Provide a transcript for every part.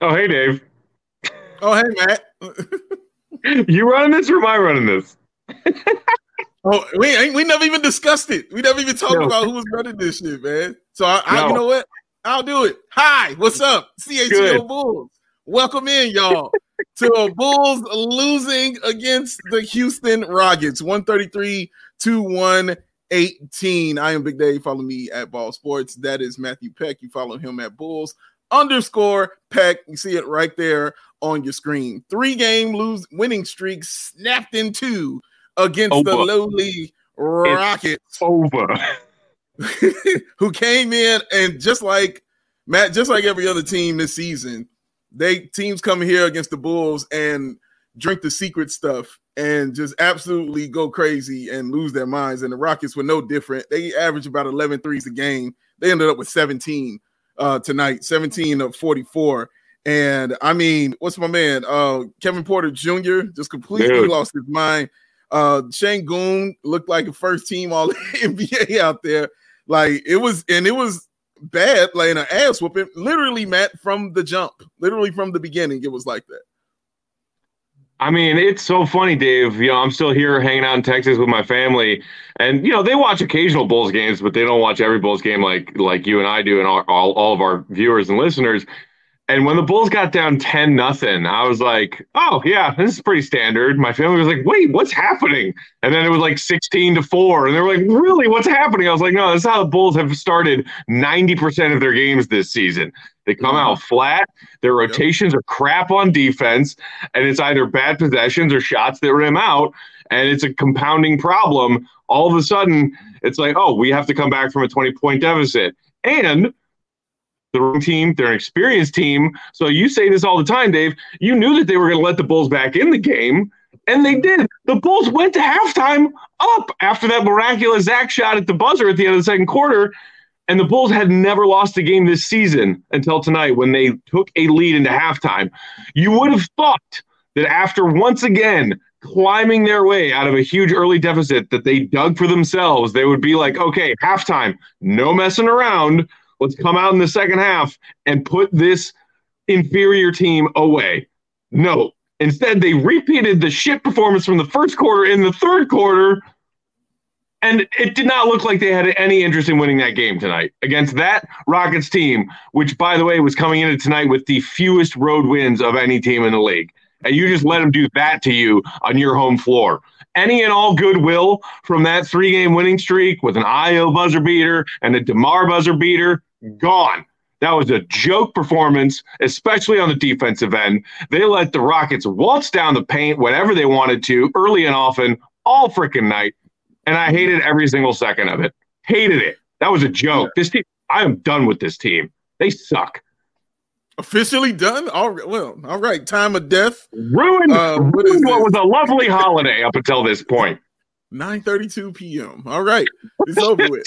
Oh, hey, Dave. Oh, hey, Matt. You running this or am I running this? Oh, we never even discussed it. We never even talked No, about who was running this shit, man. So you no. know what? I'll do it. Hi, what's up, Good. CHGO Bulls? Welcome in, y'all, to a Bulls losing against the Houston Rockets, 133 to 118. I am Big Dave. Follow me at Ball Sports. That is Matthew Peck. You follow him at Bulls_Peck. You see it right there on your screen. 3-game winning streak snapped in two against the lowly Rockets. It's over. Who came in and just like every other team this season, teams come here against the Bulls and drink the secret stuff and just absolutely go crazy and lose their minds. And the Rockets were no different. They averaged about 11 threes a game. They ended up with 17 tonight, 17 of 44. And I mean, what's my man? Kevin Porter Jr. just completely lost his mind. Şengün looked like a first team all NBA out there. Like it was bad, like an ass whooping. Literally, Matt, from the jump, literally from the beginning, it was like that. I mean, it's so funny, Dave. You know, I'm still here hanging out in Texas with my family, and you know they watch occasional Bulls games, but they don't watch every Bulls game like you and I do, and all of our viewers and listeners. And when the Bulls got down 10-0, I was like, oh, yeah, this is pretty standard. My family was like, wait, what's happening? And then it was like 16-4. And they were like, really, what's happening? I was like, no, this is how the Bulls have started 90% of their games this season. They come out flat. Their rotations are crap on defense. And it's either bad possessions or shots that rim out. And it's a compounding problem. All of a sudden, it's like, oh, we have to come back from a 20-point deficit. And the wrong team, they're an experienced team. So you say this all the time, Dave. You knew that they were going to let the Bulls back in the game, and they did. The Bulls went to halftime up after that miraculous Zach shot at the buzzer at the end of the second quarter, and the Bulls had never lost a game this season until tonight when they took a lead into halftime. You would have thought that after once again climbing their way out of a huge early deficit that they dug for themselves, they would be like, okay, halftime, no messing around. Let's come out in the second half and put this inferior team away. No. Instead, they repeated the shit performance from the first quarter in the third quarter, and it did not look like they had any interest in winning that game tonight against that Rockets team, which, by the way, was coming into tonight with the fewest road wins of any team in the league. And you just let them do that to you on your home floor. Any and all goodwill from that 3-game winning streak with an Ayo buzzer beater and a DeMar buzzer beater, gone. That was a joke performance, especially on the defensive end. They let the Rockets waltz down the paint whenever they wanted to, early and often, all freaking night. And I hated every single second of it. Hated it. That was a joke. This team, I am done with this team. They suck. Officially done? All right. Time of death. Ruined what was a lovely holiday up until this point. 9:32 p.m. All right. It's over with.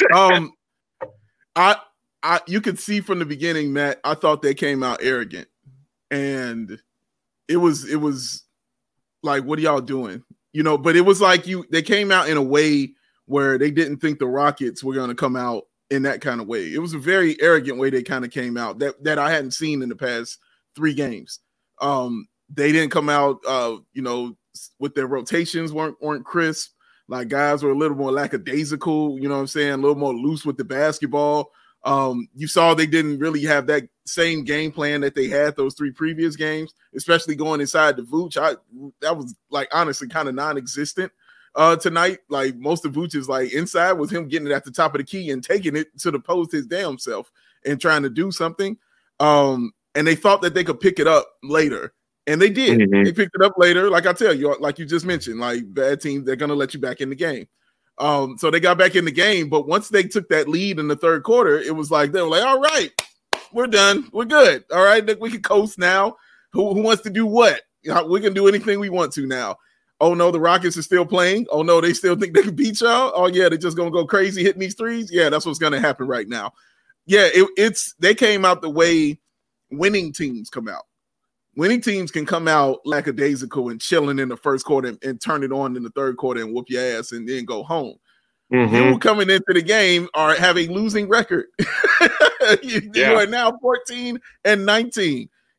You could see from the beginning, Matt, I thought they came out arrogant. And it was like, what are y'all doing? You know, but it was like they came out in a way where they didn't think the Rockets were going to come out in that kind of way. It was a very arrogant way they kind of came out that I hadn't seen in the past 3 games. They didn't come out, with their rotations weren't crisp. Like guys were a little more lackadaisical, you know what I'm saying? A little more loose with the basketball. You saw they didn't really have that same game plan that they had those 3 previous games, especially going inside the Vooch. That was like honestly kind of non-existent tonight. Like most of Vooch's like inside was him getting it at the top of the key and taking it to the post his damn self and trying to do something. And they thought that they could pick it up later. And they did. Mm-hmm. They picked it up later. Like I tell you, like you just mentioned, like bad teams, they're going to let you back in the game. So they got back in the game. But once they took that lead in the third quarter, it was like, they were like, all right, we're done. We're good. All right, we can coast now. Who wants to do what? We can do anything we want to now. Oh, no, the Rockets are still playing. Oh, no, they still think they can beat y'all. Oh, yeah, they're just going to go crazy hitting these threes. Yeah, that's what's going to happen right now. Yeah, they came out the way winning teams come out. Winning teams can come out lackadaisical and chilling in the first quarter and turn it on in the third quarter and whoop your ass and then go home. Mm-hmm. You coming into the game have a losing record. You are now 14-19.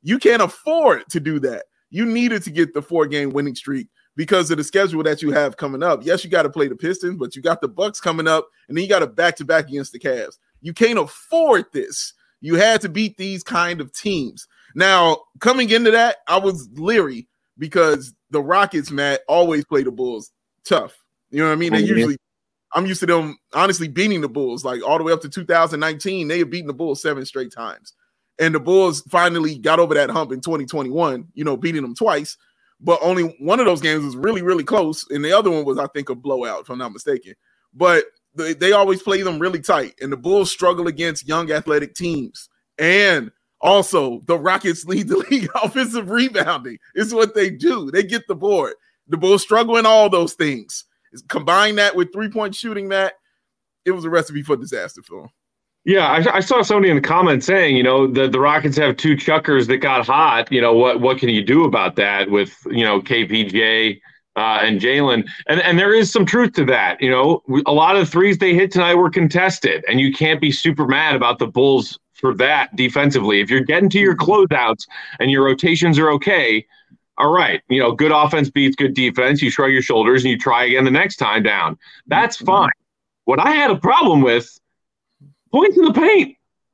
You can't afford to do that. You needed to get the 4-game winning streak because of the schedule that you have coming up. Yes, you got to play the Pistons, but you got the Bucks coming up, and then you got a back-to-back against the Cavs. You can't afford this. You had to beat these kind of teams. Now, coming into that, I was leery because the Rockets, Matt, always play the Bulls tough. You know what I mean? They usually, I'm used to them honestly beating the Bulls. Like all the way up to 2019, they had beaten the Bulls 7 straight times. And the Bulls finally got over that hump in 2021, beating them twice. But only one of those games was really, really close. And the other one was, I think, a blowout, if I'm not mistaken. But they always play them really tight. And the Bulls struggle against young athletic teams. And also, the Rockets lead the league offensive rebounding. It's what they do. They get the board. The Bulls struggle in all those things. Combine that with three-point shooting, Matt, it was a recipe for disaster for them. Yeah, I saw somebody in the comments saying, the Rockets have 2 chuckers that got hot. What can you do about that with, KPJ and Jalen? And there is some truth to that. A lot of the threes they hit tonight were contested, and you can't be super mad about the Bulls for that defensively. If you're getting to your closeouts and your rotations are okay, all right, good offense beats good defense. You shrug your shoulders and you try again the next time down. That's fine. What I had a problem with, points in the paint.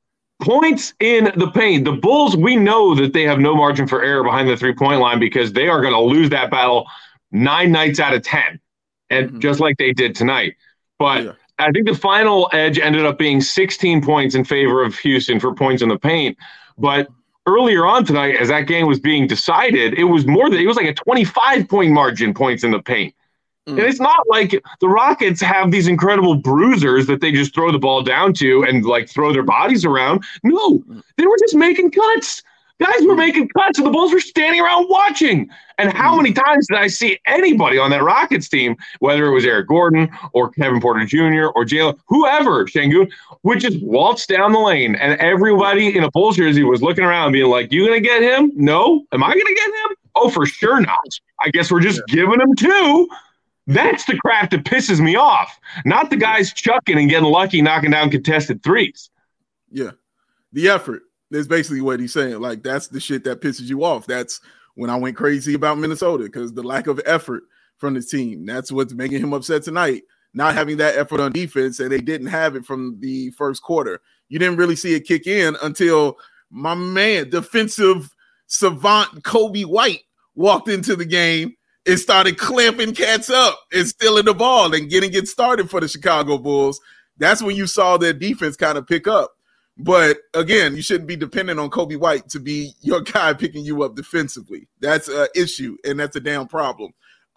Points in the paint. The Bulls, we know that they have no margin for error behind the three-point line because they are going to lose that battle 9 nights out of 10, and just like they did tonight. But I think the final edge ended up being 16 points in favor of Houston for points in the paint. But earlier on tonight, as that game was being decided, it was like a 25-point margin points in the paint. And it's not like the Rockets have these incredible bruisers that they just throw the ball down to and like throw their bodies around. No, they were just making cuts. Guys were making cuts and the Bulls were standing around watching. And how many times did I see anybody on that Rockets team, whether it was Eric Gordon or Kevin Porter Jr. or Jalen, whoever, Şengün, would just waltz down the lane and everybody in a Bulls jersey was looking around being like, you going to get him? No. Am I going to get him? Oh, for sure not. I guess we're just giving him 2. That's the crap that pisses me off, not the guys chucking and getting lucky, knocking down contested threes. Yeah. The effort is basically what he's saying. Like, that's the shit that pisses you off. That's when I went crazy about Minnesota, because the lack of effort from the team, that's what's making him upset tonight. Not having that effort on defense, and they didn't have it from the first quarter. You didn't really see it kick in until my man, defensive savant Kobe White, walked into the game and started clamping cats up and stealing the ball and getting it started for the Chicago Bulls. That's when you saw their defense kind of pick up. But again, you shouldn't be dependent on Kobe White to be your guy picking you up defensively. That's an issue, and that's a damn problem.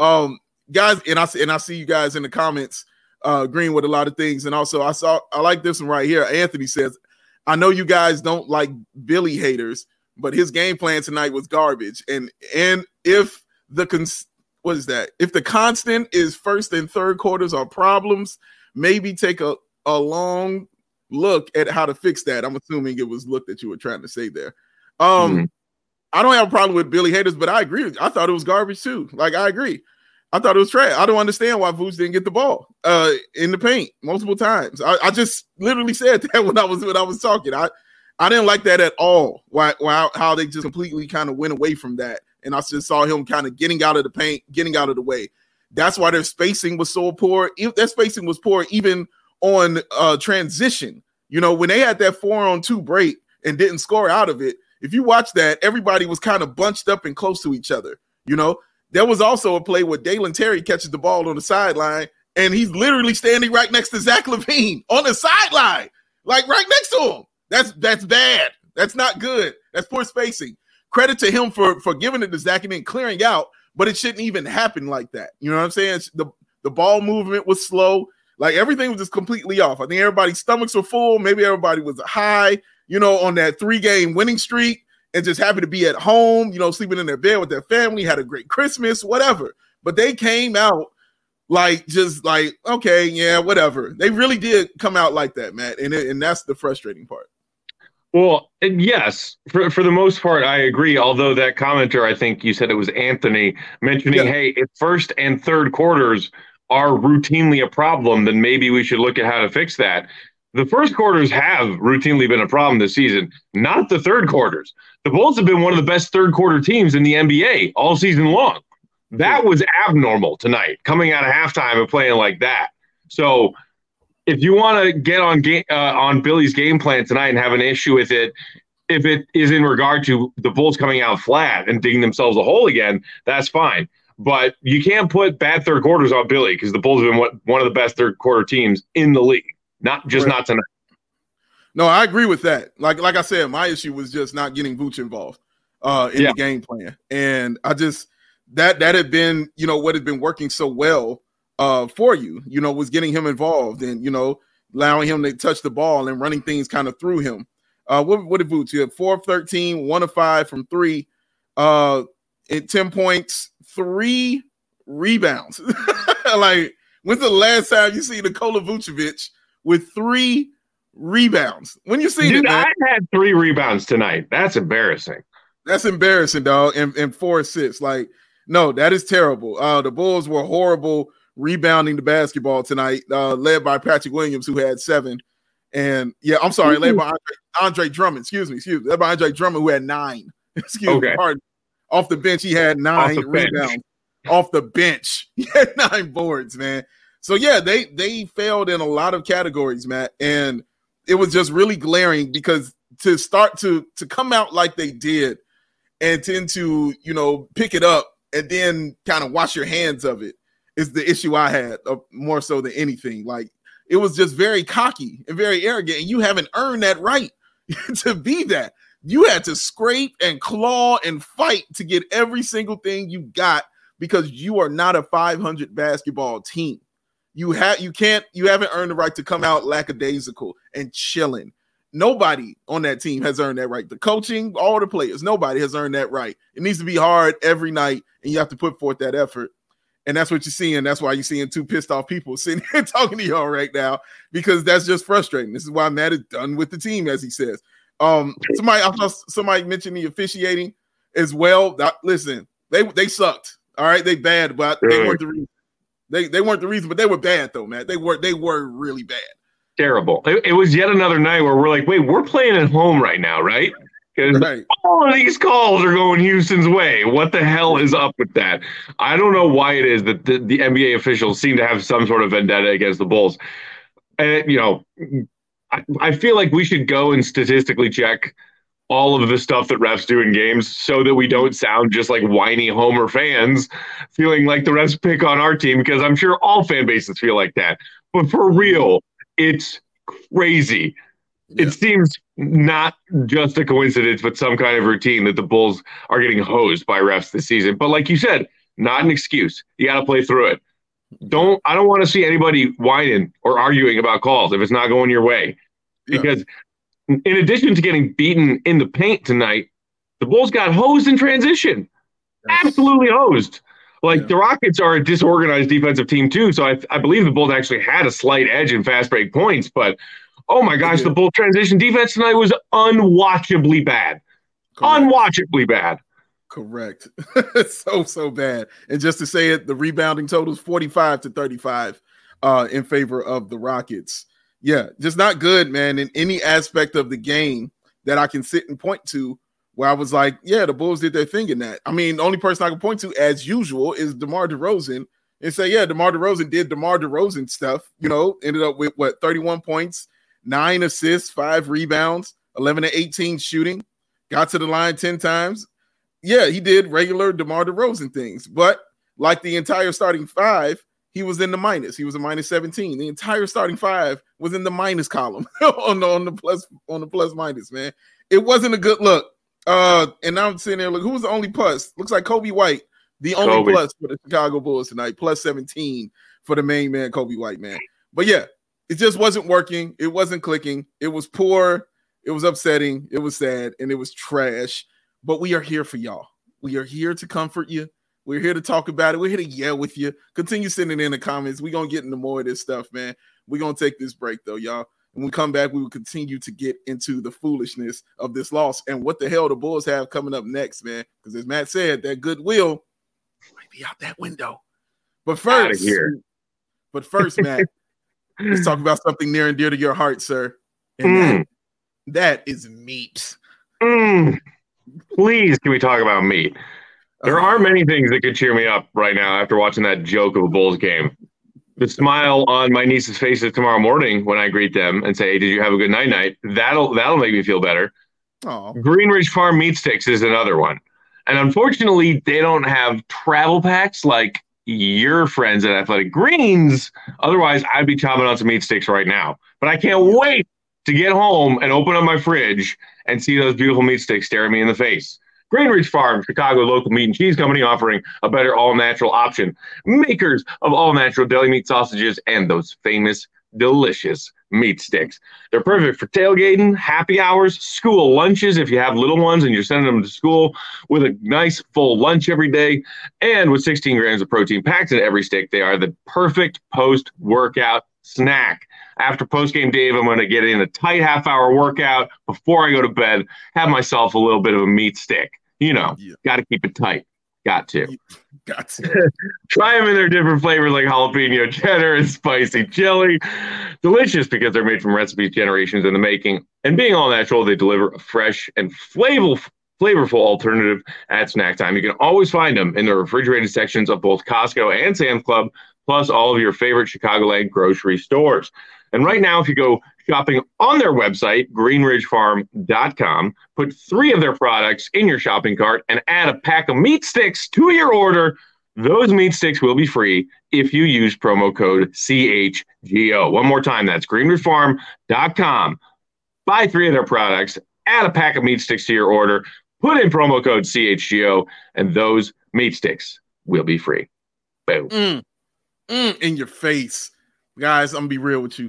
Guys, and I see you guys in the comments agreeing with a lot of things. And also I like this one right here. Anthony says, I know you guys don't like Billy haters, but his game plan tonight was garbage. And if if the constant is first and third quarters are problems, maybe take a long look at how to fix that. I'm assuming it was look that you were trying to say there. I don't have a problem with Billy haters, but I agree. I thought it was garbage too. Like, I agree. I thought it was trash. I don't understand why Vooch didn't get the ball in the paint multiple times. I just literally said that when I was talking. I didn't like that at all. How they just completely kind of went away from that. And I just saw him kind of getting out of the paint, getting out of the way. That's why their spacing was so poor. Their spacing was poor even on transition. When they had that 4-on-2 break and didn't score out of it, if you watch that, everybody was kind of bunched up and close to each other. There was also a play where Dalen Terry catches the ball on the sideline, and he's literally standing right next to Zach LaVine on the sideline, like right next to him. That's bad. That's not good. That's poor spacing. Credit to him for giving it to Zach and then clearing out, but it shouldn't even happen like that. You know what I'm saying? The ball movement was slow. Like, everything was just completely off. I think everybody's stomachs were full. Maybe everybody was high, on that 3-game winning streak and just happy to be at home, sleeping in their bed with their family, had a great Christmas, whatever. But they came out okay, yeah, whatever. They really did come out like that, Matt. And that's the frustrating part. Well, yes, for the most part, I agree. Although that commenter, I think you said it was Anthony, mentioning, hey, if first and third quarters are routinely a problem, then maybe we should look at how to fix that. the first quarters have routinely been a problem this season, not the third quarters. The Bulls have been one of the best third quarter teams in the NBA all season long. That was abnormal tonight, coming out of halftime and playing like that. So if you want to get on Billy's game plan tonight and have an issue with it, if it is in regard to the Bulls coming out flat and digging themselves a hole again, that's fine. But you can't put bad third quarters on Billy because the Bulls have been one of the best third quarter teams in the league. Not tonight. No, I agree with that. Like I said, my issue was just not getting Vooch involved in the game plan. And I just that had been, what had been working so well for you, was getting him involved and, allowing him to touch the ball and running things kind of through him. What did Vooch? You had 4 of 13, 1 of 5 from 3, and 10 points, 3 rebounds. Like, when's the last time you see Nikola Vucevic with 3 rebounds? When you see it, man? I had 3 rebounds tonight. That's embarrassing. That's embarrassing, dog. And 4 assists. Like, no, that is terrible. The Bulls were horrible rebounding the basketball tonight, led by Patrick Williams, who had 7. And I'm sorry, led by Andre Drummond. Excuse me. Led by Andre Drummond, who had 9. Excuse me. Pardon. Off the bench, he had 9 rebounds. Off the bench, he had 9 boards, man. So yeah, they failed in a lot of categories, Matt, and it was just really glaring because to start to come out like they did and tend to pick it up and then kind of wash your hands of it is the issue I had more so than anything. Like, it was just very cocky and very arrogant, and you haven't earned that right to be that. You had to scrape and claw and fight to get every single thing you got because you are not a 500 basketball team. You haven't earned the right to come out lackadaisical and chilling. Nobody on that team has earned that right. The coaching, all the players, nobody has earned that right. It needs to be hard every night, and you have to put forth that effort. And that's what you're seeing. That's why you're seeing 2 pissed off people sitting here talking to y'all right now, because that's just frustrating. This is why Matt is done with the team, as he says. Somebody mentioned the officiating as well. Listen, they sucked. All right, they bad, but they weren't the reason. They weren't the reason, but they were bad though, man. They were really bad. Terrible. It was yet another night where we're like, wait, we're playing at home right now, right? Because all of these calls are going Houston's way. What the hell is up with that? I don't know why it is that the NBA officials seem to have some sort of vendetta against the Bulls. And, I feel like we should go and statistically check all of the stuff that refs do in games so that we don't sound just like whiny Homer fans feeling like the refs pick on our team, because I'm sure all fan bases feel like that. But for real, it's crazy. Yeah. It seems not just a coincidence, but some kind of routine that the Bulls are getting hosed by refs this season. But like you said, not an excuse. You got to play through it. I don't want to see anybody whining or arguing about calls if it's not going your way. Because in addition to getting beaten in the paint tonight, the Bulls got hosed in transition. Absolutely hosed. Like, the Rockets are a disorganized defensive team too, so I believe the Bulls actually had a slight edge in fast break points, but oh my gosh, the Bulls transition defense tonight was unwatchably bad. Correct. Unwatchably bad. Correct. So bad. And just to say it, the rebounding total is 45-35 in favor of the Rockets. Yeah, just not good, man, in any aspect of the game that I can sit and point to where I was like, yeah, the Bulls did their thing in that. I mean, the only person I can point to, as usual, is DeMar DeRozan and say, yeah, DeMar DeRozan did DeMar DeRozan stuff, ended up with 31 points, 9 assists, 5 rebounds, 11 to 18 shooting, got to the line 10 times. Yeah, he did regular DeMar DeRozan things, but like the entire starting 5, he was in the minus. He was a minus 17. The entire starting 5 was in the minus column on the plus minus, man. It wasn't a good look. And now I'm sitting there, look, who was the only plus? Looks like Kobe White, the only plus for the Chicago Bulls tonight, plus 17 for the main man, Kobe White, man. But yeah, it just wasn't working. It wasn't clicking. It was poor. It was upsetting. It was sad, and it was trash. But we are here for y'all. We are here to comfort you. We're here to talk about it. We're here to yell with you. Continue sending in the comments. We're going to get into more of this stuff, man. We're going to take this break, though, y'all. When we come back, we will continue to get into the foolishness of this loss and what the hell the Bulls have coming up next, man. Because as Matt said, that goodwill might be out that window. But first, Matt, Let's talk about something near and dear to your heart, sir. And that is meat. Please, can we talk about meat? There are many things that could cheer me up right now after watching that joke of a Bulls game. The smile on my niece's faces tomorrow morning when I greet them and say, "Hey, did you have a good night?" That'll make me feel better. Aww. Green Ridge Farm Meat Sticks is another one. And unfortunately, they don't have travel packs like your friends at Athletic Greens. Otherwise, I'd be chopping on some meat sticks right now. But I can't wait to get home and open up my fridge and see those beautiful meat sticks staring me in the face. Green Ridge Farm, Chicago local meat and cheese company, offering a better all-natural option. Makers of all-natural deli meat sausages and those famous, delicious meat sticks. They're perfect for tailgating, happy hours, school lunches if you have little ones and you're sending them to school with a nice full lunch every day. And with 16 grams of protein packed in every stick, they are the perfect post-workout snack. After post-game Dave, I'm going to get in a tight half-hour workout before I go to bed, have myself a little bit of a meat stick. Got to keep it tight. Got to. Try them in their different flavors like jalapeno cheddar and spicy chili. Delicious because they're made from recipes generations in the making. And being all natural, they deliver a fresh and flavorful alternative at snack time. You can always find them in the refrigerated sections of both Costco and Sam's Club, plus all of your favorite Chicagoland grocery stores. And right now, if you go shopping on their website, greenridgefarm.com, put 3 of their products in your shopping cart and add a pack of meat sticks to your order, those meat sticks will be free if you use promo code CHGO. One more time, that's greenridgefarm.com. Buy 3 of their products, add a pack of meat sticks to your order, put in promo code CHGO, and those meat sticks will be free. Boom. In your face. Guys, I'm going to be real with you.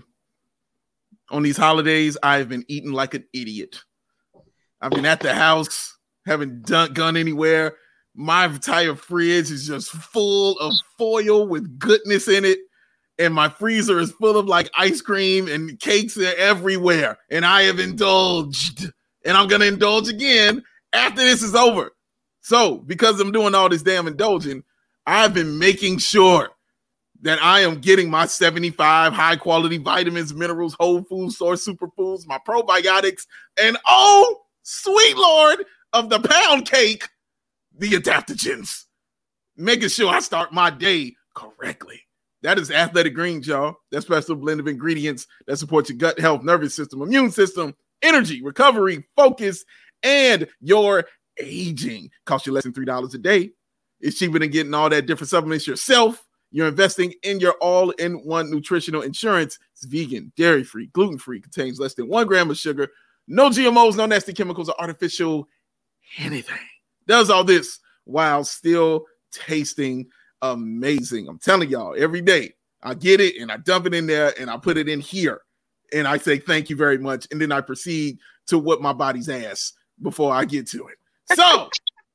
On these holidays, I've been eating like an idiot. I've been at the house, haven't gone anywhere. My entire fridge is just full of foil with goodness in it. And my freezer is full of like ice cream and cakes everywhere. And I have indulged. And I'm going to indulge again after this is over. So because I'm doing all this damn indulging, I've been making sure that I am getting my 75 high-quality vitamins, minerals, whole food source superfoods, my probiotics, and oh, sweet Lord of the pound cake, the adaptogens. Making sure I start my day correctly. That is Athletic Greens, y'all. That special blend of ingredients that supports your gut health, nervous system, immune system, energy, recovery, focus, and your aging. Costs you less than $3 a day. It's cheaper than getting all that different supplements yourself. You're investing in your all-in-one nutritional insurance. It's vegan, dairy-free, gluten-free, contains less than 1 gram of sugar, no GMOs, no nasty chemicals or artificial anything. Does all this while still tasting amazing. I'm telling y'all, every day I get it and I dump it in there and I put it in here and I say thank you very much. And then I proceed to whip my body's ass before I get to it. So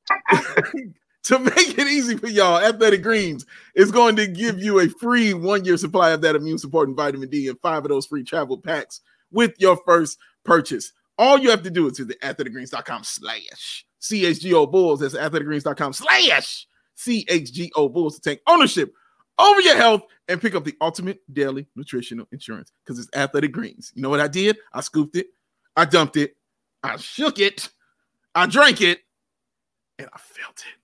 to make it easy for y'all, Athletic Greens is going to give you a free 1-year supply of that immune supporting vitamin D and 5 of those free travel packs with your first purchase. All you have to do is visit athleticgreens.com/CHGO Bulls. That's athleticgreens.com/CHGO Bulls to take ownership over your health and pick up the ultimate daily nutritional insurance because it's Athletic Greens. You know what I did? I scooped it. I dumped it. I shook it. I drank it. And I felt it.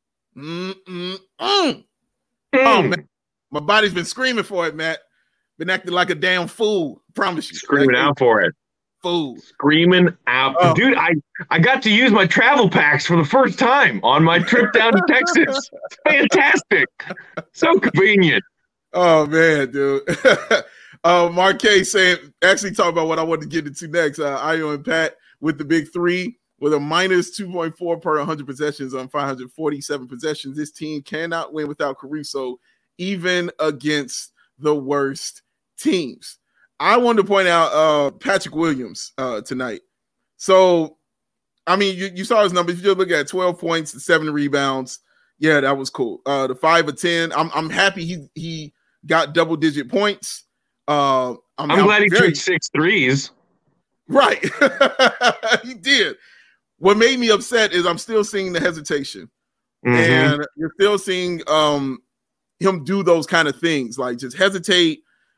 Oh, man. My body's been screaming for it, Matt. Been acting like a damn fool. Promise you. Screaming out for it. Fool. Screaming out. Oh. Dude, I got to use my travel packs for the first time on my trip down to Texas. It's fantastic. So convenient. Oh, man, dude. Marquez saying, actually talk about what I want to get into next. Io and Pat with the big 3. With a minus 2.4 per 100 possessions on 547 possessions, this team cannot win without Caruso, even against the worst teams. I wanted to point out Patrick Williams tonight. So, I mean, you saw his numbers. You just look at 12 points, 7 rebounds. Yeah, that was cool. The 5 of 10. I'm happy he got double-digit points. I'm glad he took 6 threes. Right. He did. What made me upset is I'm still seeing the hesitation. And you're still seeing him do those kind of things, like just hesitate,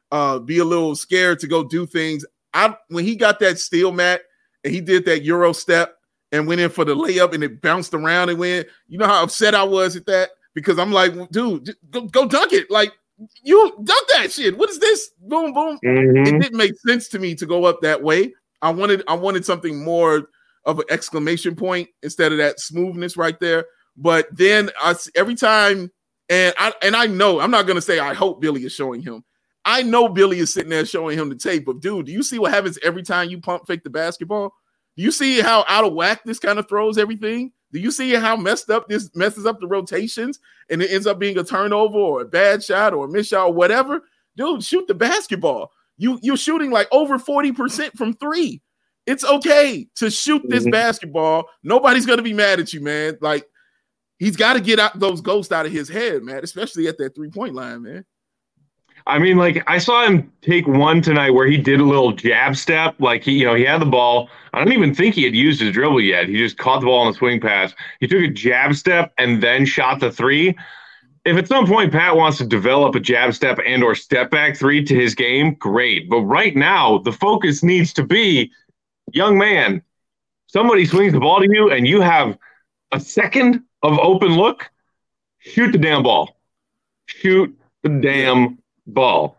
be a little scared to go do things. When he got that steal, Matt, and he did that Euro step and went in for the layup and it bounced around and went, you know how upset I was at that? Because I'm like, dude, go dunk it. Like, you dunk that shit. What is this? Boom, boom. Mm-hmm. It didn't make sense to me to go up that way. I wanted something more of an exclamation point instead of that smoothness right there. But then every time, and I know, I'm not going to say I hope Billy is showing him. I know Billy is sitting there showing him the tape of, dude, do you see what happens every time you pump fake the basketball? Do you see how out of whack this kind of throws everything? Do you see how messed up this messes up the rotations and it ends up being a turnover or a bad shot or a miss shot or whatever? Dude, shoot the basketball. You're shooting like over 40% from three. It's okay to shoot this basketball. Nobody's going to be mad at you, man. Like, he's got to get out those ghosts out of his head, man, especially at that three-point line, man. I mean, like, I saw him take one tonight where he did a little jab step. Like, he had the ball. I don't even think he had used his dribble yet. He just caught the ball on the swing pass. He took a jab step and then shot the three. If at some point Pat wants to develop a jab step and or step back three to his game, great. But right now, the focus needs to be, young man, somebody swings the ball to you and you have a second of open look, shoot the damn ball. Shoot the damn ball.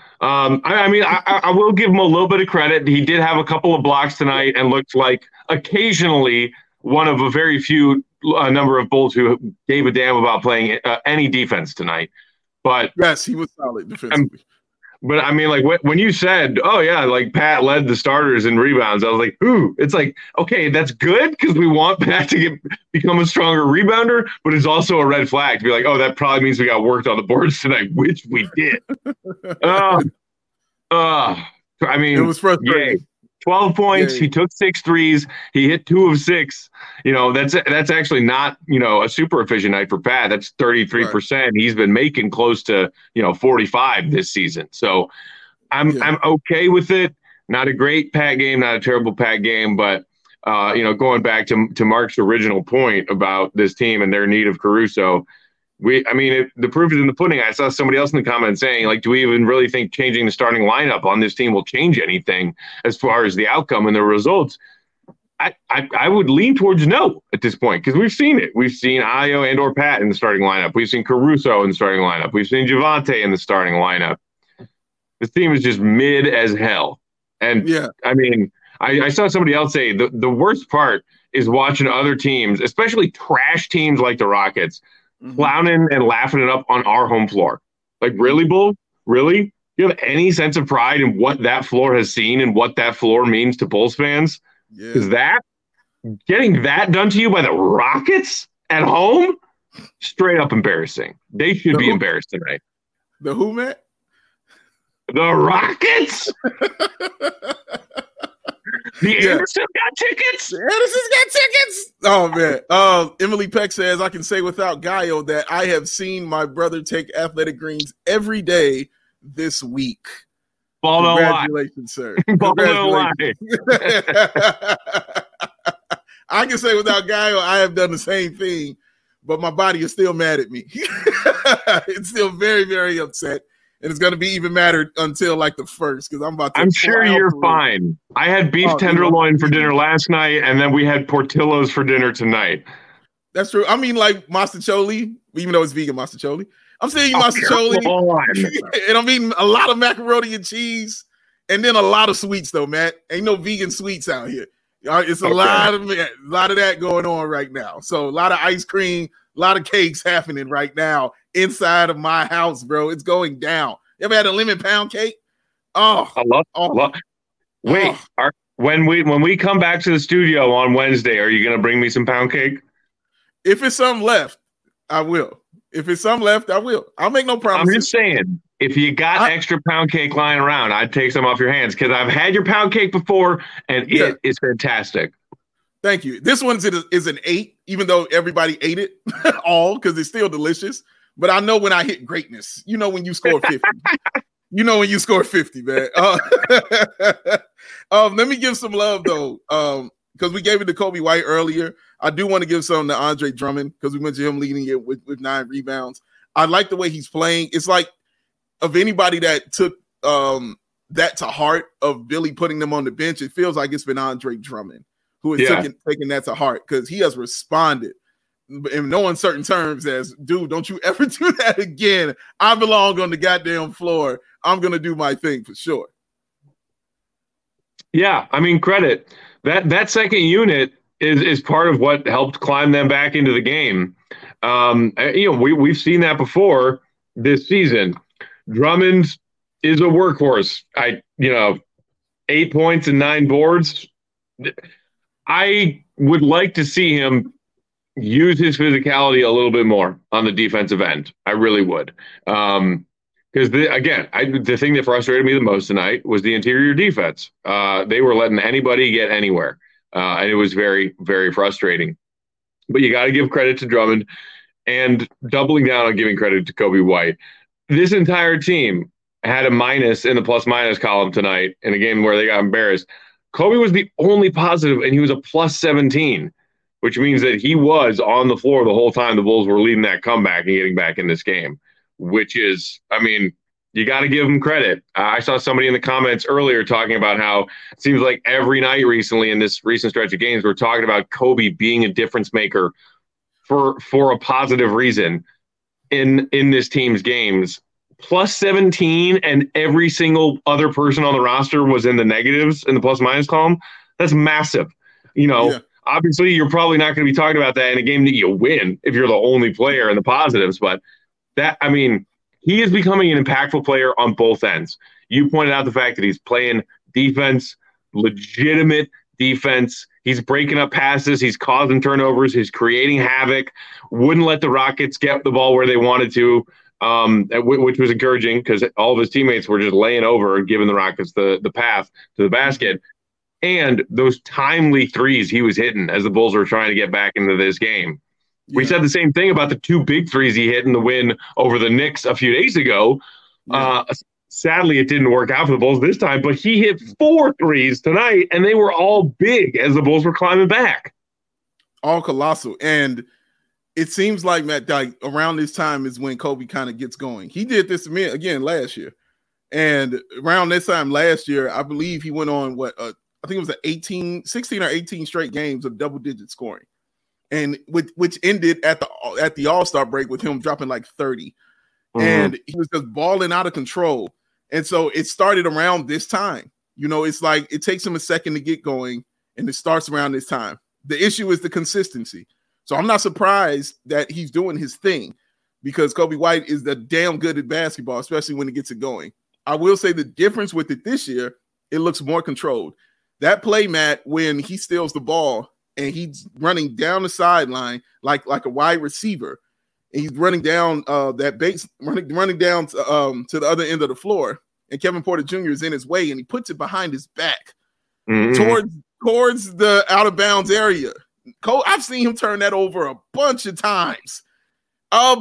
I will give him a little bit of credit. He did have a couple of blocks tonight and looked like occasionally one of a very few number of Bulls who gave a damn about playing any defense tonight. But yes, he was solid defensively. But I mean, like when you said, "Oh yeah," like Pat led the starters in rebounds, I was like, "Ooh!" It's like, okay, that's good because we want Pat to become a stronger rebounder, but it's also a red flag to be like, "Oh, that probably means we got worked on the boards tonight," which we did. I mean, it was frustrating. Yay. 12 points. Yay. He took 6 threes. He hit 2 of 6. You know, that's actually not, a super efficient night for Pat. That's 33%. Right. He's been making close to, 45 this season. So I'm okay with it. Not a great Pat game, not a terrible Pat game, but going back to Mark's original point about this team and their need of Caruso, the proof is in the pudding. I saw somebody else in the comments saying, like, do we even really think changing the starting lineup on this team will change anything as far as the outcome and the results? I would lean towards no at this point because we've seen it. We've seen Ayo and or Pat in the starting lineup. We've seen Caruso in the starting lineup. We've seen Javonte in the starting lineup. This team is just mid as hell. And I saw somebody else say the worst part is watching other teams, especially trash teams like the Rockets, clowning and laughing it up on our home floor. Like, really, Bull? Really? Do you have any sense of pride in what that floor has seen and what that floor means to Bulls fans? Is that getting that done to you by the Rockets at home? Straight up embarrassing. They should be embarrassed tonight. The who, Matt? The Rockets? Anderson got tickets? Anderson's got tickets? Oh, man. Emily Peck says, I can say without guile that I have seen my brother take athletic greens every day this week. Congratulations, sir. Congratulations. I can say without guile, I have done the same thing, but my body is still mad at me. It's still very, very upset. And it's going to be even madder until like the first because I'm about to. I'm sure you're fine. I had beef tenderloin for dinner last night, and then we had Portillo's for dinner tonight. That's true. I mean, like mastacholi, even though it's vegan mastacholi. I'm saying mastacholi, and I'm eating a lot of macaroni and cheese, and then a lot of sweets though, Matt. Ain't no vegan sweets out here. It's a lot of that going on right now. So a lot of ice cream, a lot of cakes happening right now inside of my house, bro. It's going down. You ever had a lemon pound cake? Oh, I love. Wait, when we come back to the studio on Wednesday, are you going to bring me some pound cake? If it's some left, I will. If it's some left, I will. I'll make no promises. I'm just saying, if you got extra pound cake lying around, I'd take some off your hands because I've had your pound cake before, and it is fantastic. Thank you. This one is an 8, even though everybody ate it all because it's still delicious. But I know when I hit greatness. You know when you score 50. You know when you score 50, man. Let me give some love, though, because we gave it to Kobe White earlier. I do want to give some to Andre Drummond because we mentioned him leading it with 9 rebounds. I like the way he's playing. It's like of anybody that took that to heart of Billy putting them on the bench, it feels like it's been Andre Drummond who has taken that to heart, because he has responded in no uncertain terms as, dude, don't you ever do that again. I belong on the goddamn floor. I'm going to do my thing for sure. Yeah, I mean, credit. That second unit is part of what helped climb them back into the game. We've seen that before this season. Drummond is a workhorse. 8 points and 9 boards. I would like to see him use his physicality a little bit more on the defensive end. I really would. Because, the thing that frustrated me the most tonight was the interior defense. They were letting anybody get anywhere. And it was very, very frustrating. But you got to give credit to Drummond, and doubling down on giving credit to Coby White. This entire team had a minus in the plus-minus column tonight in a game where they got embarrassed. Coby was the only positive, and he was a plus 17, which means that he was on the floor the whole time the Bulls were leading that comeback and getting back in this game, which is, I mean, you got to give him credit. I saw somebody in the comments earlier talking about how it seems like every night recently in this recent stretch of games, we're talking about Coby being a difference maker for a positive reason in this team's games. Plus 17, and every single other person on the roster was in the negatives in the plus minus column. That's massive. Obviously you're probably not going to be talking about that in a game that you win if you're the only player in the positives, but he is becoming an impactful player on both ends. You pointed out the fact that he's playing defense, legitimate defense. He's breaking up passes. He's causing turnovers. He's creating havoc. Wouldn't let the Rockets get the ball where they wanted to, which was encouraging because all of his teammates were just laying over and giving the Rockets the path to the basket. And those timely threes he was hitting as the Bulls were trying to get back into this game. Yeah. We said the same thing about the 2 big threes he hit in the win over the Knicks a few days ago. Yeah. Sadly, it didn't work out for the Bulls this time, but he hit 4 threes tonight, and they were all big as the Bulls were climbing back. All colossal. And it seems like, Matt, around this time is when Coby kind of gets going. He did this to me again last year. And around this time last year, I believe he went on I think it was 16 or 18 straight games of double-digit scoring, and which ended at the All-Star break with him dropping like 30, and he was just balling out of control. And so it started around this time. It's like it takes him a second to get going, and it starts around this time. The issue is the consistency. So I'm not surprised that he's doing his thing, because Coby White is damn good at basketball, especially when it gets it going. I will say the difference with it this year, it looks more controlled. That play, Matt, when he steals the ball and he's running down the sideline like a wide receiver, and he's running down that base, running down to the other end of the floor, and Kevin Porter Jr. is in his way, and he puts it behind his back towards the out of bounds area. I've seen him turn that over a bunch of times. I've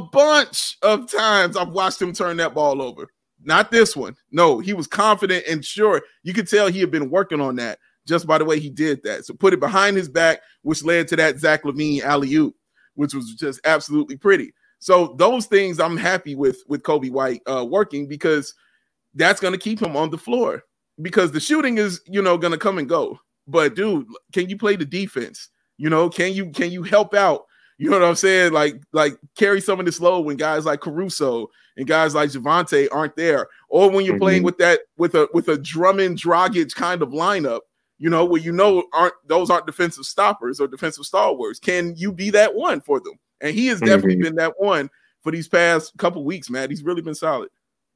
watched him turn that ball over. Not this one. No, he was confident and sure. You could tell he had been working on that just by the way he did that. So put it behind his back, which led to that Zach LaVine alley-oop, which was just absolutely pretty. So those things I'm happy with Coby White working, because that's going to keep him on the floor, because the shooting is, going to come and go. But dude, can you play the defense? Can you help out? You know what I'm saying? Like carry some of this load when guys like Caruso and guys like Javonte aren't there, or when you're playing with a Drummond Dragic kind of lineup, where those aren't defensive stoppers or defensive stalwarts. Can you be that one for them? And he has definitely been that one for these past couple weeks, Matt. He's really been solid.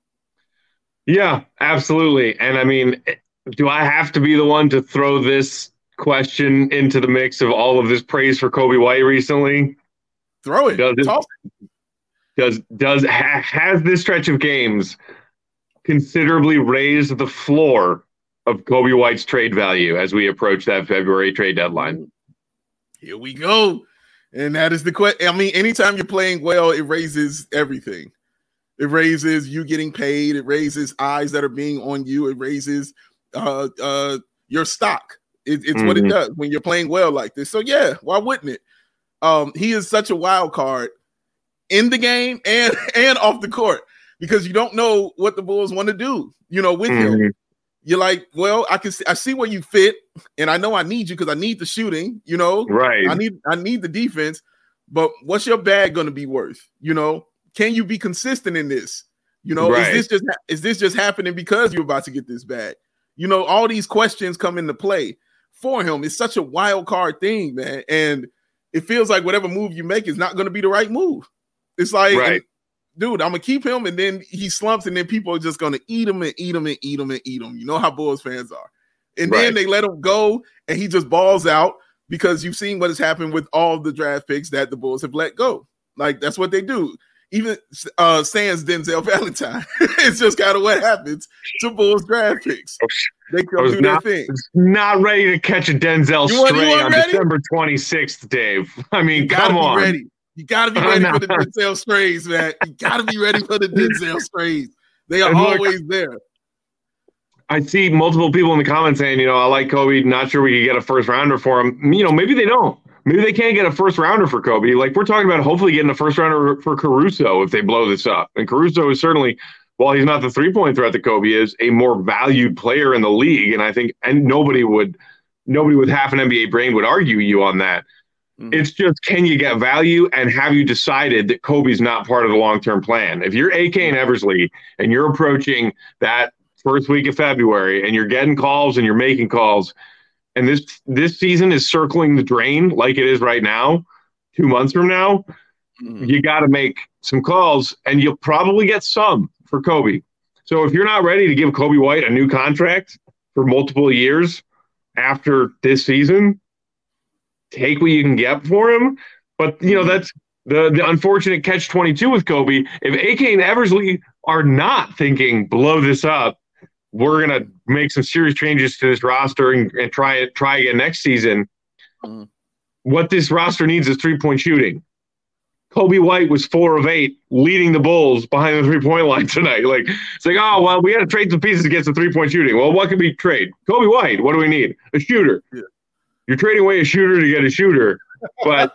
Yeah, absolutely. And I mean, do I have to be the one to throw this question into the mix of all of this praise for Coby White recently? Throw it. Has this stretch of games considerably raised the floor of Coby White's trade value as we approach that February trade deadline? Here we go. And that is the question. I mean, anytime you're playing well, it raises everything. It raises you getting paid. It raises eyes that are being on you. It raises your stock. It's what it does when you're playing well like this. So yeah, why wouldn't it? He is such a wild card in the game and off the court. because you don't know what the Bulls want to do, with him. You're like, well, I see where you fit, and I know I need you because I need the shooting, Right. I need the defense, but what's your bag going to be worth? Can you be consistent in this? Right. Is this just happening because you're about to get this bag? All these questions come into play for him. It's such a wild card thing, man. And it feels like whatever move you make is not going to be the right move. It's like, right. Dude, I'm going to keep him, and then he slumps, and then people are just going to eat him and eat him and eat him and eat him. You know how Bulls fans are. And then they let him go, and he just balls out because you've seen what has happened with all the draft picks that the Bulls have let go. Like, that's what they do. Even sans Denzel Valentine. It's just kind of what happens to Bulls draft picks. They come do their thing. Not ready to catch a Denzel stray on December 26th, Dave. I mean, come on. Ready. You got to be ready for the Denzel strays, man. You got to be ready for the Denzel strays. They are always there. I see multiple people in the comments saying, I like Kobe. Not sure we could get a first rounder for him. Maybe they don't. Maybe they can't get a first rounder for Kobe. Like, we're talking about hopefully getting a first rounder for Caruso if they blow this up. And Caruso is certainly, while he's not the 3-point threat that Kobe is, a more valued player in the league. And I think, and nobody with half an NBA brain would argue you on that. It's just, can you get value, and have you decided that Kobe's not part of the long-term plan? If you're AK and Eversley and you're approaching that first week of February and you're getting calls and you're making calls, and this season is circling the drain like it is right now, 2 months from now, you got to make some calls, and you'll probably get some for Kobe. So if you're not ready to give Kobe White a new contract for multiple years after this season, take what you can get for him. But, that's the unfortunate catch-22 with Kobe. If AK and Eversley are not thinking, blow this up, we're going to make some serious changes to this roster and try again next season. What this roster needs is three-point shooting. Kobe White was 4 of 8, leading the Bulls behind the three-point line tonight. Like, it's like, oh, well, we got to trade some pieces to get some three-point shooting. Well, what can we trade? Kobe White. What do we need? A shooter. Yeah. You're trading away a shooter to get a shooter. But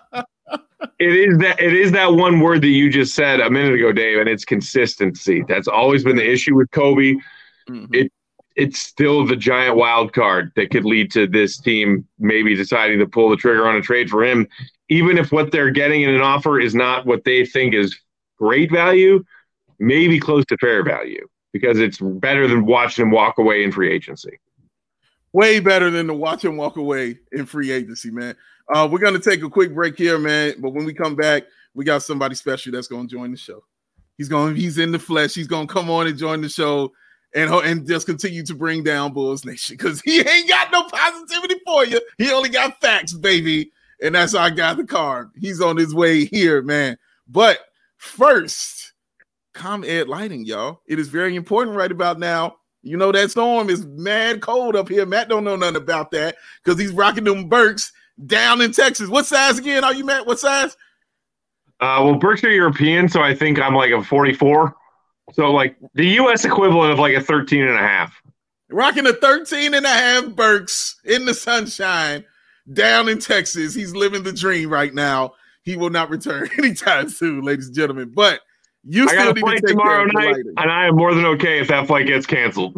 it is that one word that you just said a minute ago, Dave, and it's consistency. That's always been the issue with Kobe. It's still the giant wild card that could lead to this team maybe deciding to pull the trigger on a trade for him, even if what they're getting in an offer is not what they think is great value, maybe close to fair value, because it's better than watching him walk away in free agency. Way better than to watch him walk away in free agency, man. We're going to take a quick break here, man. But when we come back, we got somebody special that's going to join the show. He's in the flesh. He's going to come on and join the show and just continue to bring down Bulls Nation, because he ain't got no positivity for you. He only got facts, baby. And that's how I got the card. He's on his way here, man. But first, ComEd lighting, y'all. It is very important right about now. That storm is mad cold up here. Matt don't know nothing about that because he's rocking them Birks down in Texas. What size again are you, Matt? What size? Well, Birks are European, so I think I'm like a 44. So like the U.S. equivalent of like a 13.5. Rocking a 13.5 Birks in the sunshine down in Texas. He's living the dream right now. He will not return anytime soon, ladies and gentlemen. But you still need to take tomorrow night, and I am more than okay if that flight gets canceled.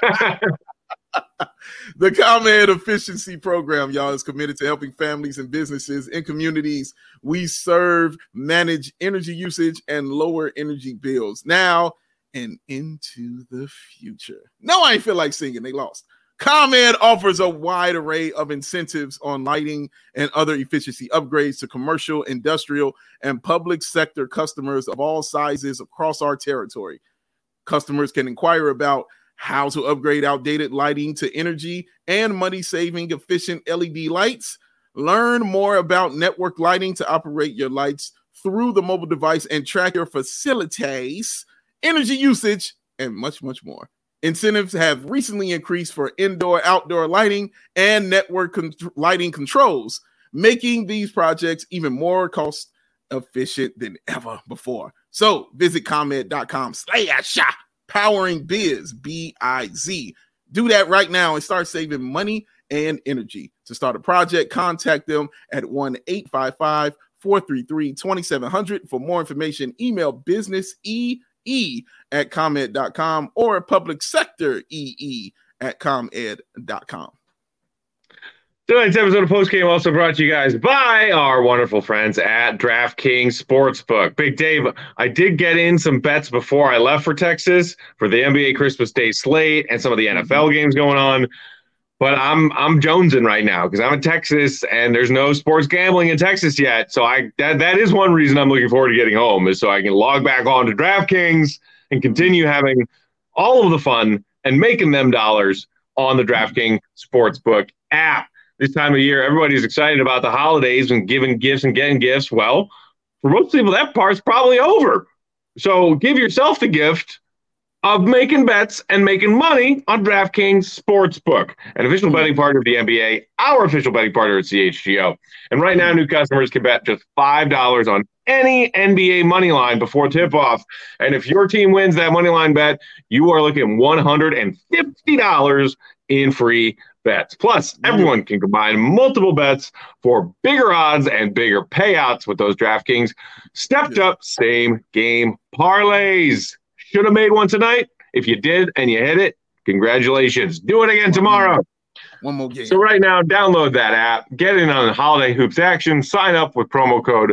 The ComEd Efficiency Program, y'all, is committed to helping families and businesses in communities we serve manage energy usage and lower energy bills now and into the future. No, I ain't feel like singing. They lost. ComEd offers a wide array of incentives on lighting and other efficiency upgrades to commercial, industrial, and public sector customers of all sizes across our territory. Customers can inquire about how to upgrade outdated lighting to energy and money-saving efficient LED lights. Learn more about network lighting to operate your lights through the mobile device and track your facilities, energy usage, and much, much more. Incentives have recently increased for indoor, outdoor lighting and network lighting controls, making these projects even more cost efficient than ever before. So visit ComEd.com/powering biz, B-I-Z. Do that right now and start saving money and energy. To start a project, contact them at 1-855-433-2700. For more information, email businesse at ComEd.com or public sector EE at ComEd.com. Tonight's episode of Postgame also brought to you guys by our wonderful friends at DraftKings Sportsbook. Big Dave, I did get in some bets before I left for Texas for the NBA Christmas Day slate and some of the NFL games going on. But I'm jonesing right now because I'm in Texas and there's no sports gambling in Texas yet. So that is one reason I'm looking forward to getting home, is so I can log back on to DraftKings and continue having all of the fun and making them dollars on the DraftKings Sportsbook app. This time of year, everybody's excited about the holidays and giving gifts and getting gifts. Well, for most people, that part's probably over. So give yourself the gift of making bets and making money on DraftKings Sportsbook, an official betting partner of the NBA, our official betting partner at CHGO. And right now, new customers can bet just $5 on any NBA money line before tip-off. And if your team wins that money line bet, you are looking at $150 in free bets. Plus, everyone can combine multiple bets for bigger odds and bigger payouts with those DraftKings stepped-up same-game parlays. Should have made one tonight. If you did and you hit it, congratulations. Do it again tomorrow. One more game. So right now, download that app, get in on the holiday hoops action, sign up with promo code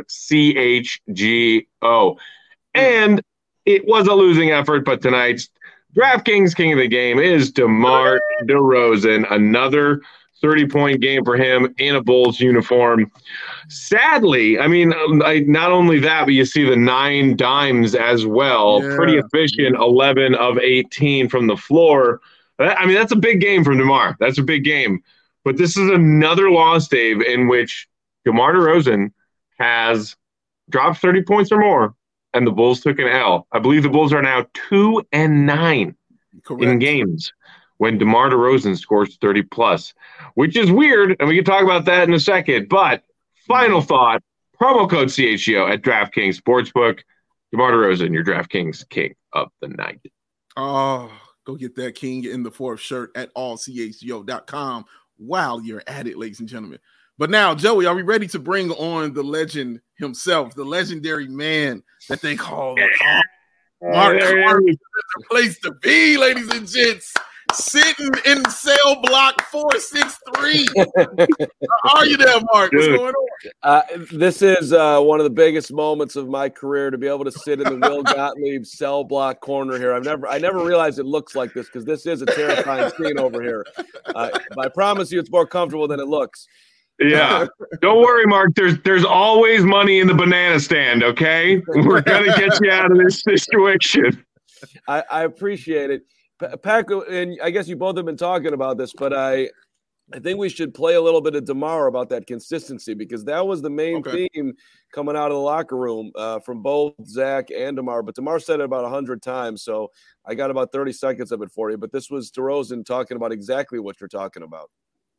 CHGO. And it was a losing effort, but tonight's DraftKings King of the Game is DeMar DeRozan. Another 30-point game for him in a Bulls uniform. Sadly, I mean, not only that, but you see the 9 dimes as well. Yeah. Pretty efficient, 11 of 18 from the floor. I mean, that's a big game from DeMar. That's a big game. But this is another loss, Dave, in which DeMar DeRozan has dropped 30 points or more, and the Bulls took an L. I believe the Bulls are now 2-9 in games when DeMar DeRozan scores 30+, which is weird, and we can talk about that in a second. But final thought, promo code CHGO at DraftKings Sportsbook. DeMar DeRozan, your DraftKings King of the Night. Oh, go get that King in the Fourth shirt at allchgo.com while you're at it, ladies and gentlemen. But now, Joey, are we ready to bring on the legend himself, the legendary man that they call Mark Carter? Is the place to be, ladies and gents. Sitting in cell block 463. How are you there, Mark? What's going on? This is one of the biggest moments of my career, to be able to sit in the Will Gottlieb cell block corner here. I never realized it looks like this, because this is a terrifying scene over here. But I promise you, it's more comfortable than it looks. Yeah, don't worry, Mark. There's always money in the banana stand. Okay, we're gonna get you out of this situation. I appreciate it. Pack, and I guess you both have been talking about this, but I think we should play a little bit of DeMar about that consistency, because that was the main theme coming out of the locker room from both Zach and DeMar. But DeMar said it about 100 times, so I got about 30 seconds of it for you. But this was DeRozan talking about exactly what you're talking about.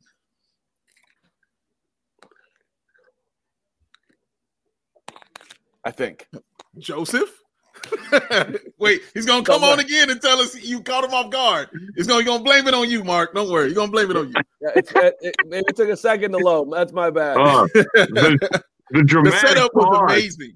I think. Joseph? Wait, he's gonna come on again and tell us you caught him off guard. He's gonna blame it on you, Mark. Don't worry, he's gonna blame it on you. Yeah, it took a second to load. That's my bad. The dramatic the setup was amazing.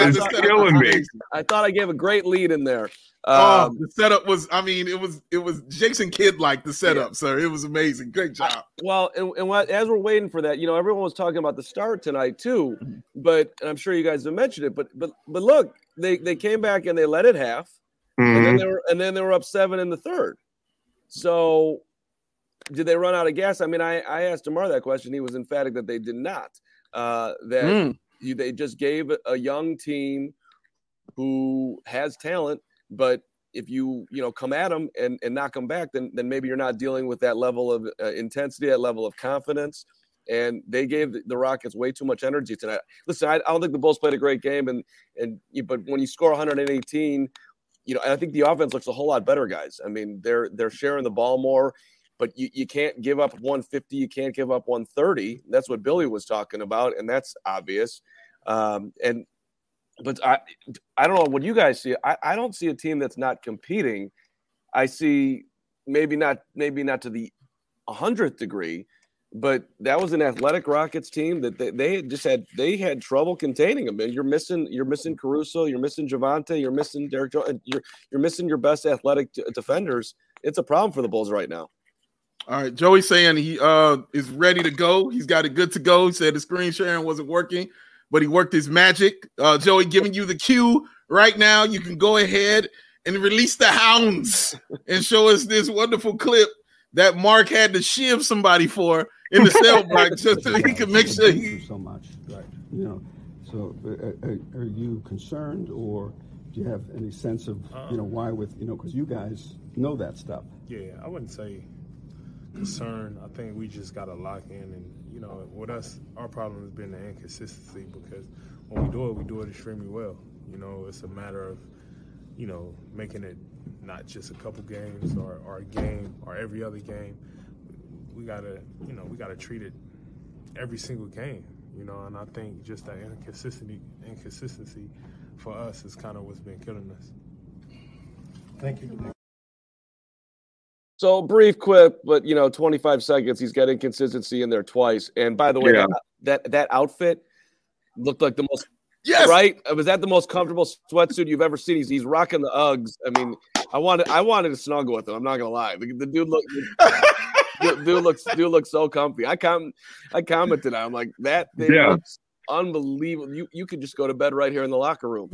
I thought I gave a great lead in there. The setup was, it was Jason Kidd like the setup, sir. It was amazing. Great job. As we're waiting for that, everyone was talking about the start tonight too, but I'm sure you guys have mentioned it. But look, they came back and they led it half, and then they were up 7 in the third. So did they run out of gas? I mean, I asked DeMar that question. He was emphatic that they did not. They just gave a young team who has talent, but if you come at them and knock them back, then maybe you're not dealing with that level of intensity, that level of confidence. And they gave the Rockets way too much energy tonight. Listen, I don't think the Bulls played a great game, but when you score 118, I think the offense looks a whole lot better, guys. I mean, they're sharing the ball more. But you can't give up 150. You can't give up 130. That's what Billy was talking about, and that's obvious. But I don't know what you guys see. I don't see a team that's not competing. I see maybe not to the 100th degree, But that was an athletic Rockets team that they had trouble containing them. And you're missing Caruso, you're missing Javonte, you're missing Derek Jones, you're missing your best athletic defenders. It's a problem for the Bulls right now. All right, Joey's saying he is ready to go. He's got it good to go. He said the screen sharing wasn't working, but he worked his magic. Joey, giving you the cue right now. You can go ahead and release the hounds and show us this wonderful clip that Mark had to shiv somebody for in the cell block just so he could make sure he. So much, right? You know, so are you concerned, or do you have any sense of why? With because you guys know that stuff. Yeah, I wouldn't say concern. I think we just got to lock in, and with us, our problem has been the inconsistency, because when we do it extremely well. It's a matter of making it not just a couple games or a game or every other game. We gotta treat it every single game. And I think just that inconsistency for us is kind of what's been killing us. Thank you. So brief clip, but 25 seconds. He's got inconsistency in there twice. And by the way, that outfit looked like the most. Yes. Right? Was that the most comfortable sweatsuit you've ever seen? He's rocking the Uggs. I mean, I wanted to snuggle with him. I'm not gonna lie. The dude looks so comfy. I commented. I'm like, that thing looks unbelievable. You could just go to bed right here in the locker room.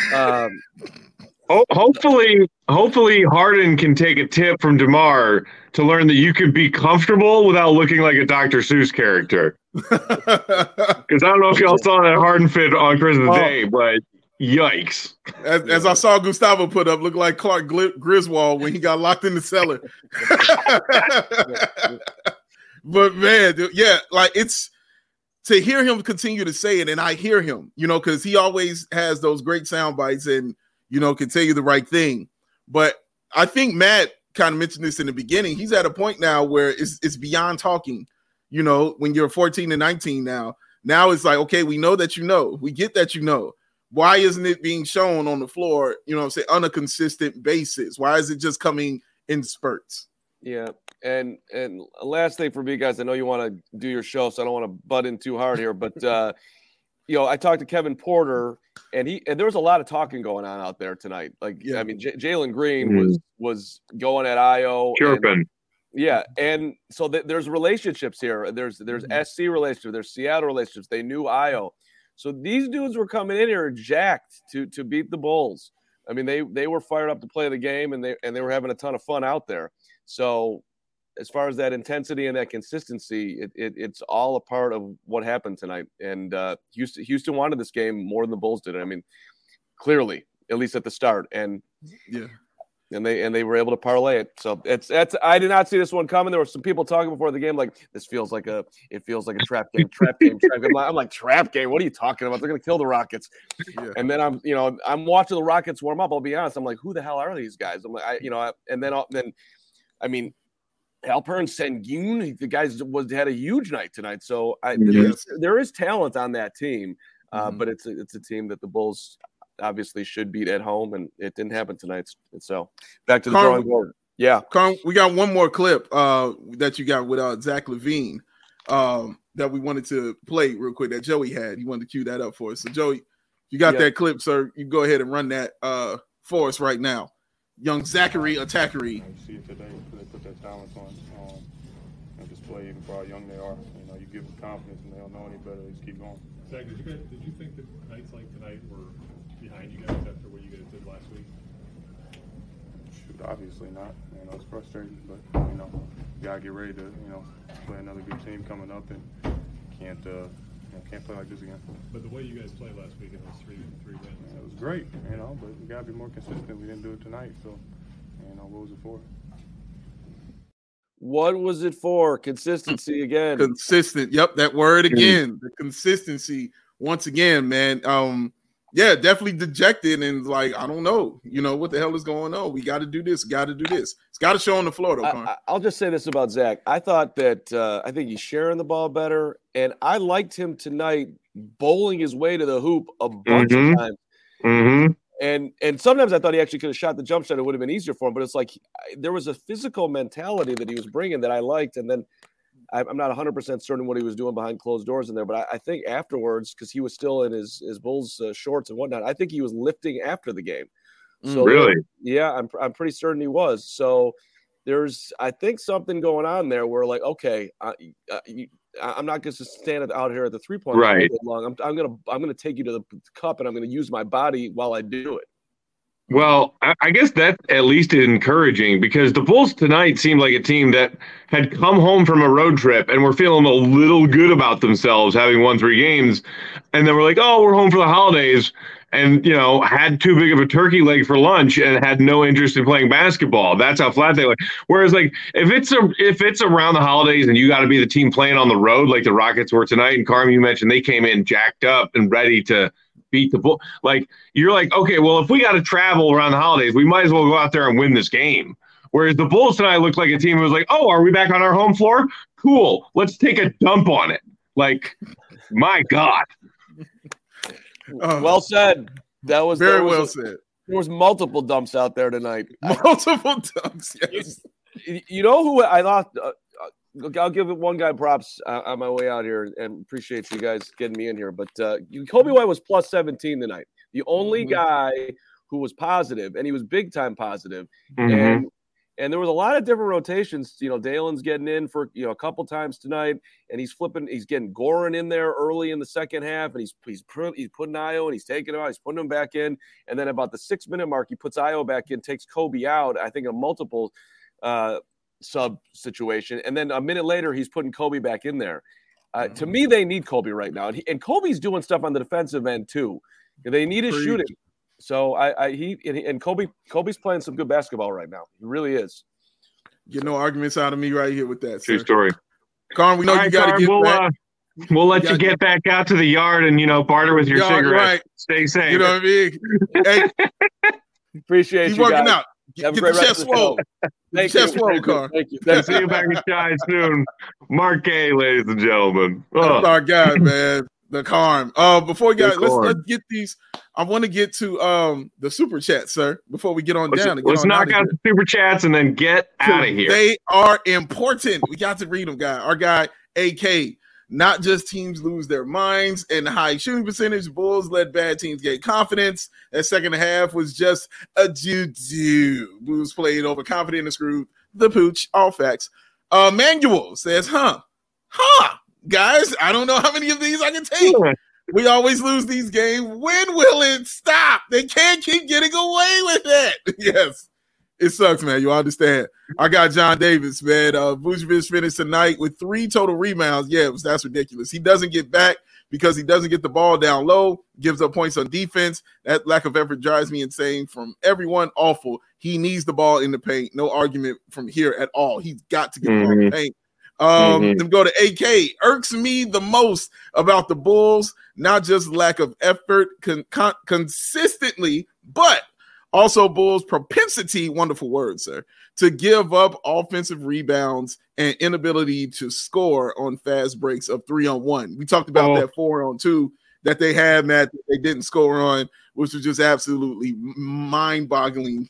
Hopefully Harden can take a tip from DeMar to learn that you can be comfortable without looking like a Dr. Seuss character. Because I don't know if y'all saw that Harden fit on Christmas Day, but yikes. As I saw Gustavo put up, looked like Clark Griswold when he got locked in the cellar. But man, like it's to hear him continue to say it, and I hear him, because he always has those great sound bites and can tell you the right thing. But I think Matt kind of mentioned this in the beginning. He's at a point now where it's beyond talking. When you're 14 and 19 now it's like, okay, we know that we get that why isn't it being shown on the floor, on a consistent basis? Why is it just coming in spurts? Yeah. And last thing for me, guys, I know you want to do your show, so I don't want to butt in too hard here, but I talked to Kevin Porter, and there was a lot of talking going on out there tonight. Like, I mean, Jalen Green was going at Io. Chirping. And so there's relationships here. There's SC relationships. There's Seattle relationships. They knew Io. So these dudes were coming in here jacked to beat the Bulls. I mean, they were fired up to play the game, and they were having a ton of fun out there. So as far as that intensity and that consistency, it's all a part of what happened tonight. And Houston wanted this game more than the Bulls did. I mean, clearly, at least at the start. And they were able to parlay it. So it's I did not see this one coming. There were some people talking before the game like, this feels like a trap game. I'm like, trap game? What are you talking about? They're gonna kill the Rockets. Yeah. And then I'm watching the Rockets warm up. I'll be honest. I'm like, who the hell are these guys? I'm like, then I mean, Alperen Sengun, the guys had a huge night tonight. So there is talent on that team, but it's a team that the Bulls obviously should beat at home, and it didn't happen tonight. So back to the drawing board. Yeah, Carm, we got one more clip that you got with Zach LaVine that we wanted to play real quick that Joey had. He wanted to cue that up for us. So Joey, you got that clip, sir. You go ahead and run that for us right now. Young Zachary Attackery. I see it today. They put that talent on display, even for how young they are. You give them confidence, and they don't know any better. They just keep going. Zach, did you think that nights like tonight were behind you guys after what you guys did last week? Shoot, obviously not. It's frustrating, but you gotta get ready to play another good team coming up, and can't play like this again. But the way you guys played last week in those three wins, it was great. But we gotta be more consistent. We didn't do it tonight, so what was it for? What was it for? Consistency again. Consistent. Yep, that word again. The consistency once again, man. Definitely dejected and like, I don't know, what the hell is going on? We got to do this. Got to do this. It's got to show on the floor, though. I'll just say this about Zach. I thought that I think he's sharing the ball better, and I liked him tonight bowling his way to the hoop a bunch of times. Mm-hmm. And sometimes I thought he actually could have shot the jump shot. It would have been easier for him. But it's like there was a physical mentality that he was bringing that I liked. And then I'm not 100% certain what he was doing behind closed doors in there, but I think afterwards, because he was still in his Bulls shorts and whatnot, I think he was lifting after the game. So really? Yeah, I'm pretty certain he was. So there's, I think, something going on there where, like, okay, I'm not going to stand out here at the 3-point line right. long. I'm gonna take you to the cup, and I'm going to use my body while I do it. Well, I guess that at least is encouraging, because the Bulls tonight seemed like a team that had come home from a road trip and were feeling a little good about themselves, having won 3 games. And then we're like, oh, we're home for the holidays. And, had too big of a turkey leg for lunch and had no interest in playing basketball. That's how flat they were. Whereas, like, if it's around the holidays and you got to be the team playing on the road like the Rockets were tonight, and Carm, you mentioned they came in jacked up and ready to beat the Bulls. Like, you're like, okay, well, if we got to travel around the holidays, we might as well go out there and win this game. Whereas the Bulls tonight looked like a team who was like, oh, are we back on our home floor? Cool. Let's take a dump on it. Like, my God. Well said. That was very well said. There was multiple dumps out there tonight. Multiple dumps. Yes. You know who I thought? I'll give one guy props on my way out here, and appreciate you guys getting me in here. But Kobe White was plus 17 tonight. The only guy who was positive, and he was big time positive. And there was a lot of different rotations. Dalen's getting in for a couple times tonight, and he's getting Goran in there early in the second half, and he's putting Ayo, and he's taking him out, he's putting him back in, and then about the 6-minute mark, he puts Ayo back in, takes Kobe out. I think in a multiple sub situation, and then a minute later, he's putting Kobe back in there. To me, they need Kobe right now, and Kobe's doing stuff on the defensive end too. They need his shooting. So Kobe's playing some good basketball right now. He really is. Get no arguments out of me right here with that. True story. Carm, we know you got to get back. We'll let you get back out to the yard and barter with your cigarettes. Right. Stay safe. You know what I mean? Hey, appreciate you working guys. out. Get the chest swole. Thank you. See you back in Shine soon. Mark Gay, ladies and gentlemen. That's our guy, man. The Carm. Before we got, let's get these. I want to get to the super chat, sir. Before we get on down, let's knock out the super chats and then get out of here. They are important. We got to read them, guy. Our guy, AK. Not just teams lose their minds and high shooting percentage. Bulls let bad teams get confidence. That second half was just a doo-doo. Bulls played overconfident and screwed the pooch. All facts. Manuel says, guys, I don't know how many of these I can take. We always lose these games. When will it stop? They can't keep getting away with it. Yes, it sucks, man. You understand. I got John Davis, man. Vucevic finished tonight with 3 total rebounds. Yeah, that's ridiculous. He doesn't get back because he doesn't get the ball down low, gives up points on defense. That lack of effort drives me insane from everyone. Awful. He needs the ball in the paint. No argument from here at all. He's got to get the ball in the paint. Then go to AK. Irks me the most about the Bulls, not just lack of effort consistently, but also Bulls' propensity, wonderful word, sir, to give up offensive rebounds and inability to score on fast breaks of 3-on-1. We talked about that 4-on-2 that they had, Matt, that they didn't score on, which was just absolutely mind-boggling.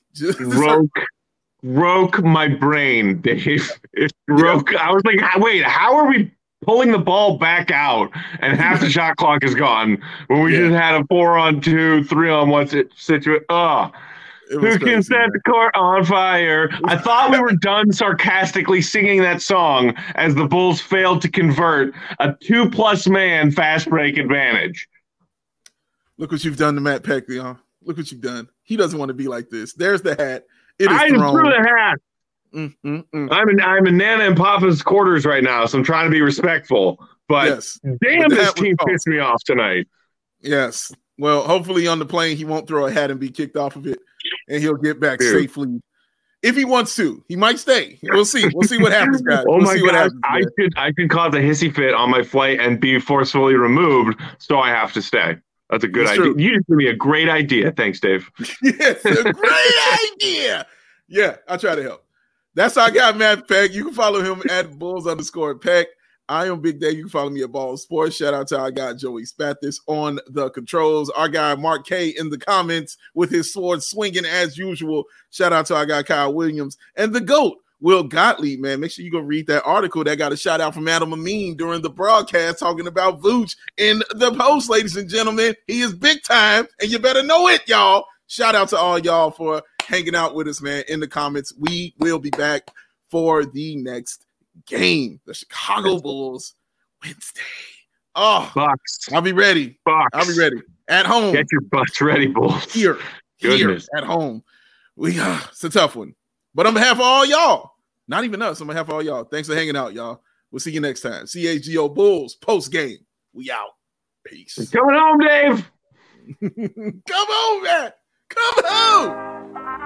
Broke my brain, Dave. It broke. Yeah. I was like, wait, how are we pulling the ball back out and half the shot clock is gone when we just had a 4-on-2, 3-on-1 situation? Who can set the court on fire? I thought we were done sarcastically singing that song as the Bulls failed to convert a 2+ man fast break advantage. Look what you've done to Matt Peck, Leon. Look what you've done. He doesn't want to be like this. There's the hat. I just threw the hat. I'm in Nana and Papa's quarters right now, so I'm trying to be respectful. But damn, this team pissed me off tonight. Yes. Well, hopefully on the plane he won't throw a hat and be kicked off of it, and he'll get back safely. If he wants to, he might stay. We'll see. We'll see what happens, guys. My God. I could cause a hissy fit on my flight and be forcefully removed, so I have to stay. That's a good idea. True. You just gave me a great idea. Thanks, Dave. Yes, a great idea. Yeah, I'll try to help. That's how I got Matt Peck. You can follow him at Bulls_Peck. I am Big Dave. You can follow me at Ball Sports. Shout out to our guy Joey Spathis on the controls. Our guy Mark K in the comments with his sword swinging as usual. Shout out to our guy Kyle Williams and the GOAT Will Gottlieb, man. Make sure you go read that article that got a shout out from Adam Amin during the broadcast talking about Vooch in the post, ladies and gentlemen. He is big time, and you better know it, y'all. Shout out to all y'all for hanging out with us, man, in the comments. We will be back for the next game, the Chicago Bulls Wednesday. Oh, Bucks. I'll be ready. Bucks. I'll be ready. At home. Get your butts ready, Bulls. Here at home. It's a tough one. But on behalf of all y'all, not even us, on behalf of all y'all, thanks for hanging out, y'all. We'll see you next time. CHGO Bulls post game. We out. Peace. Coming home, Dave. Come on, man. Come home.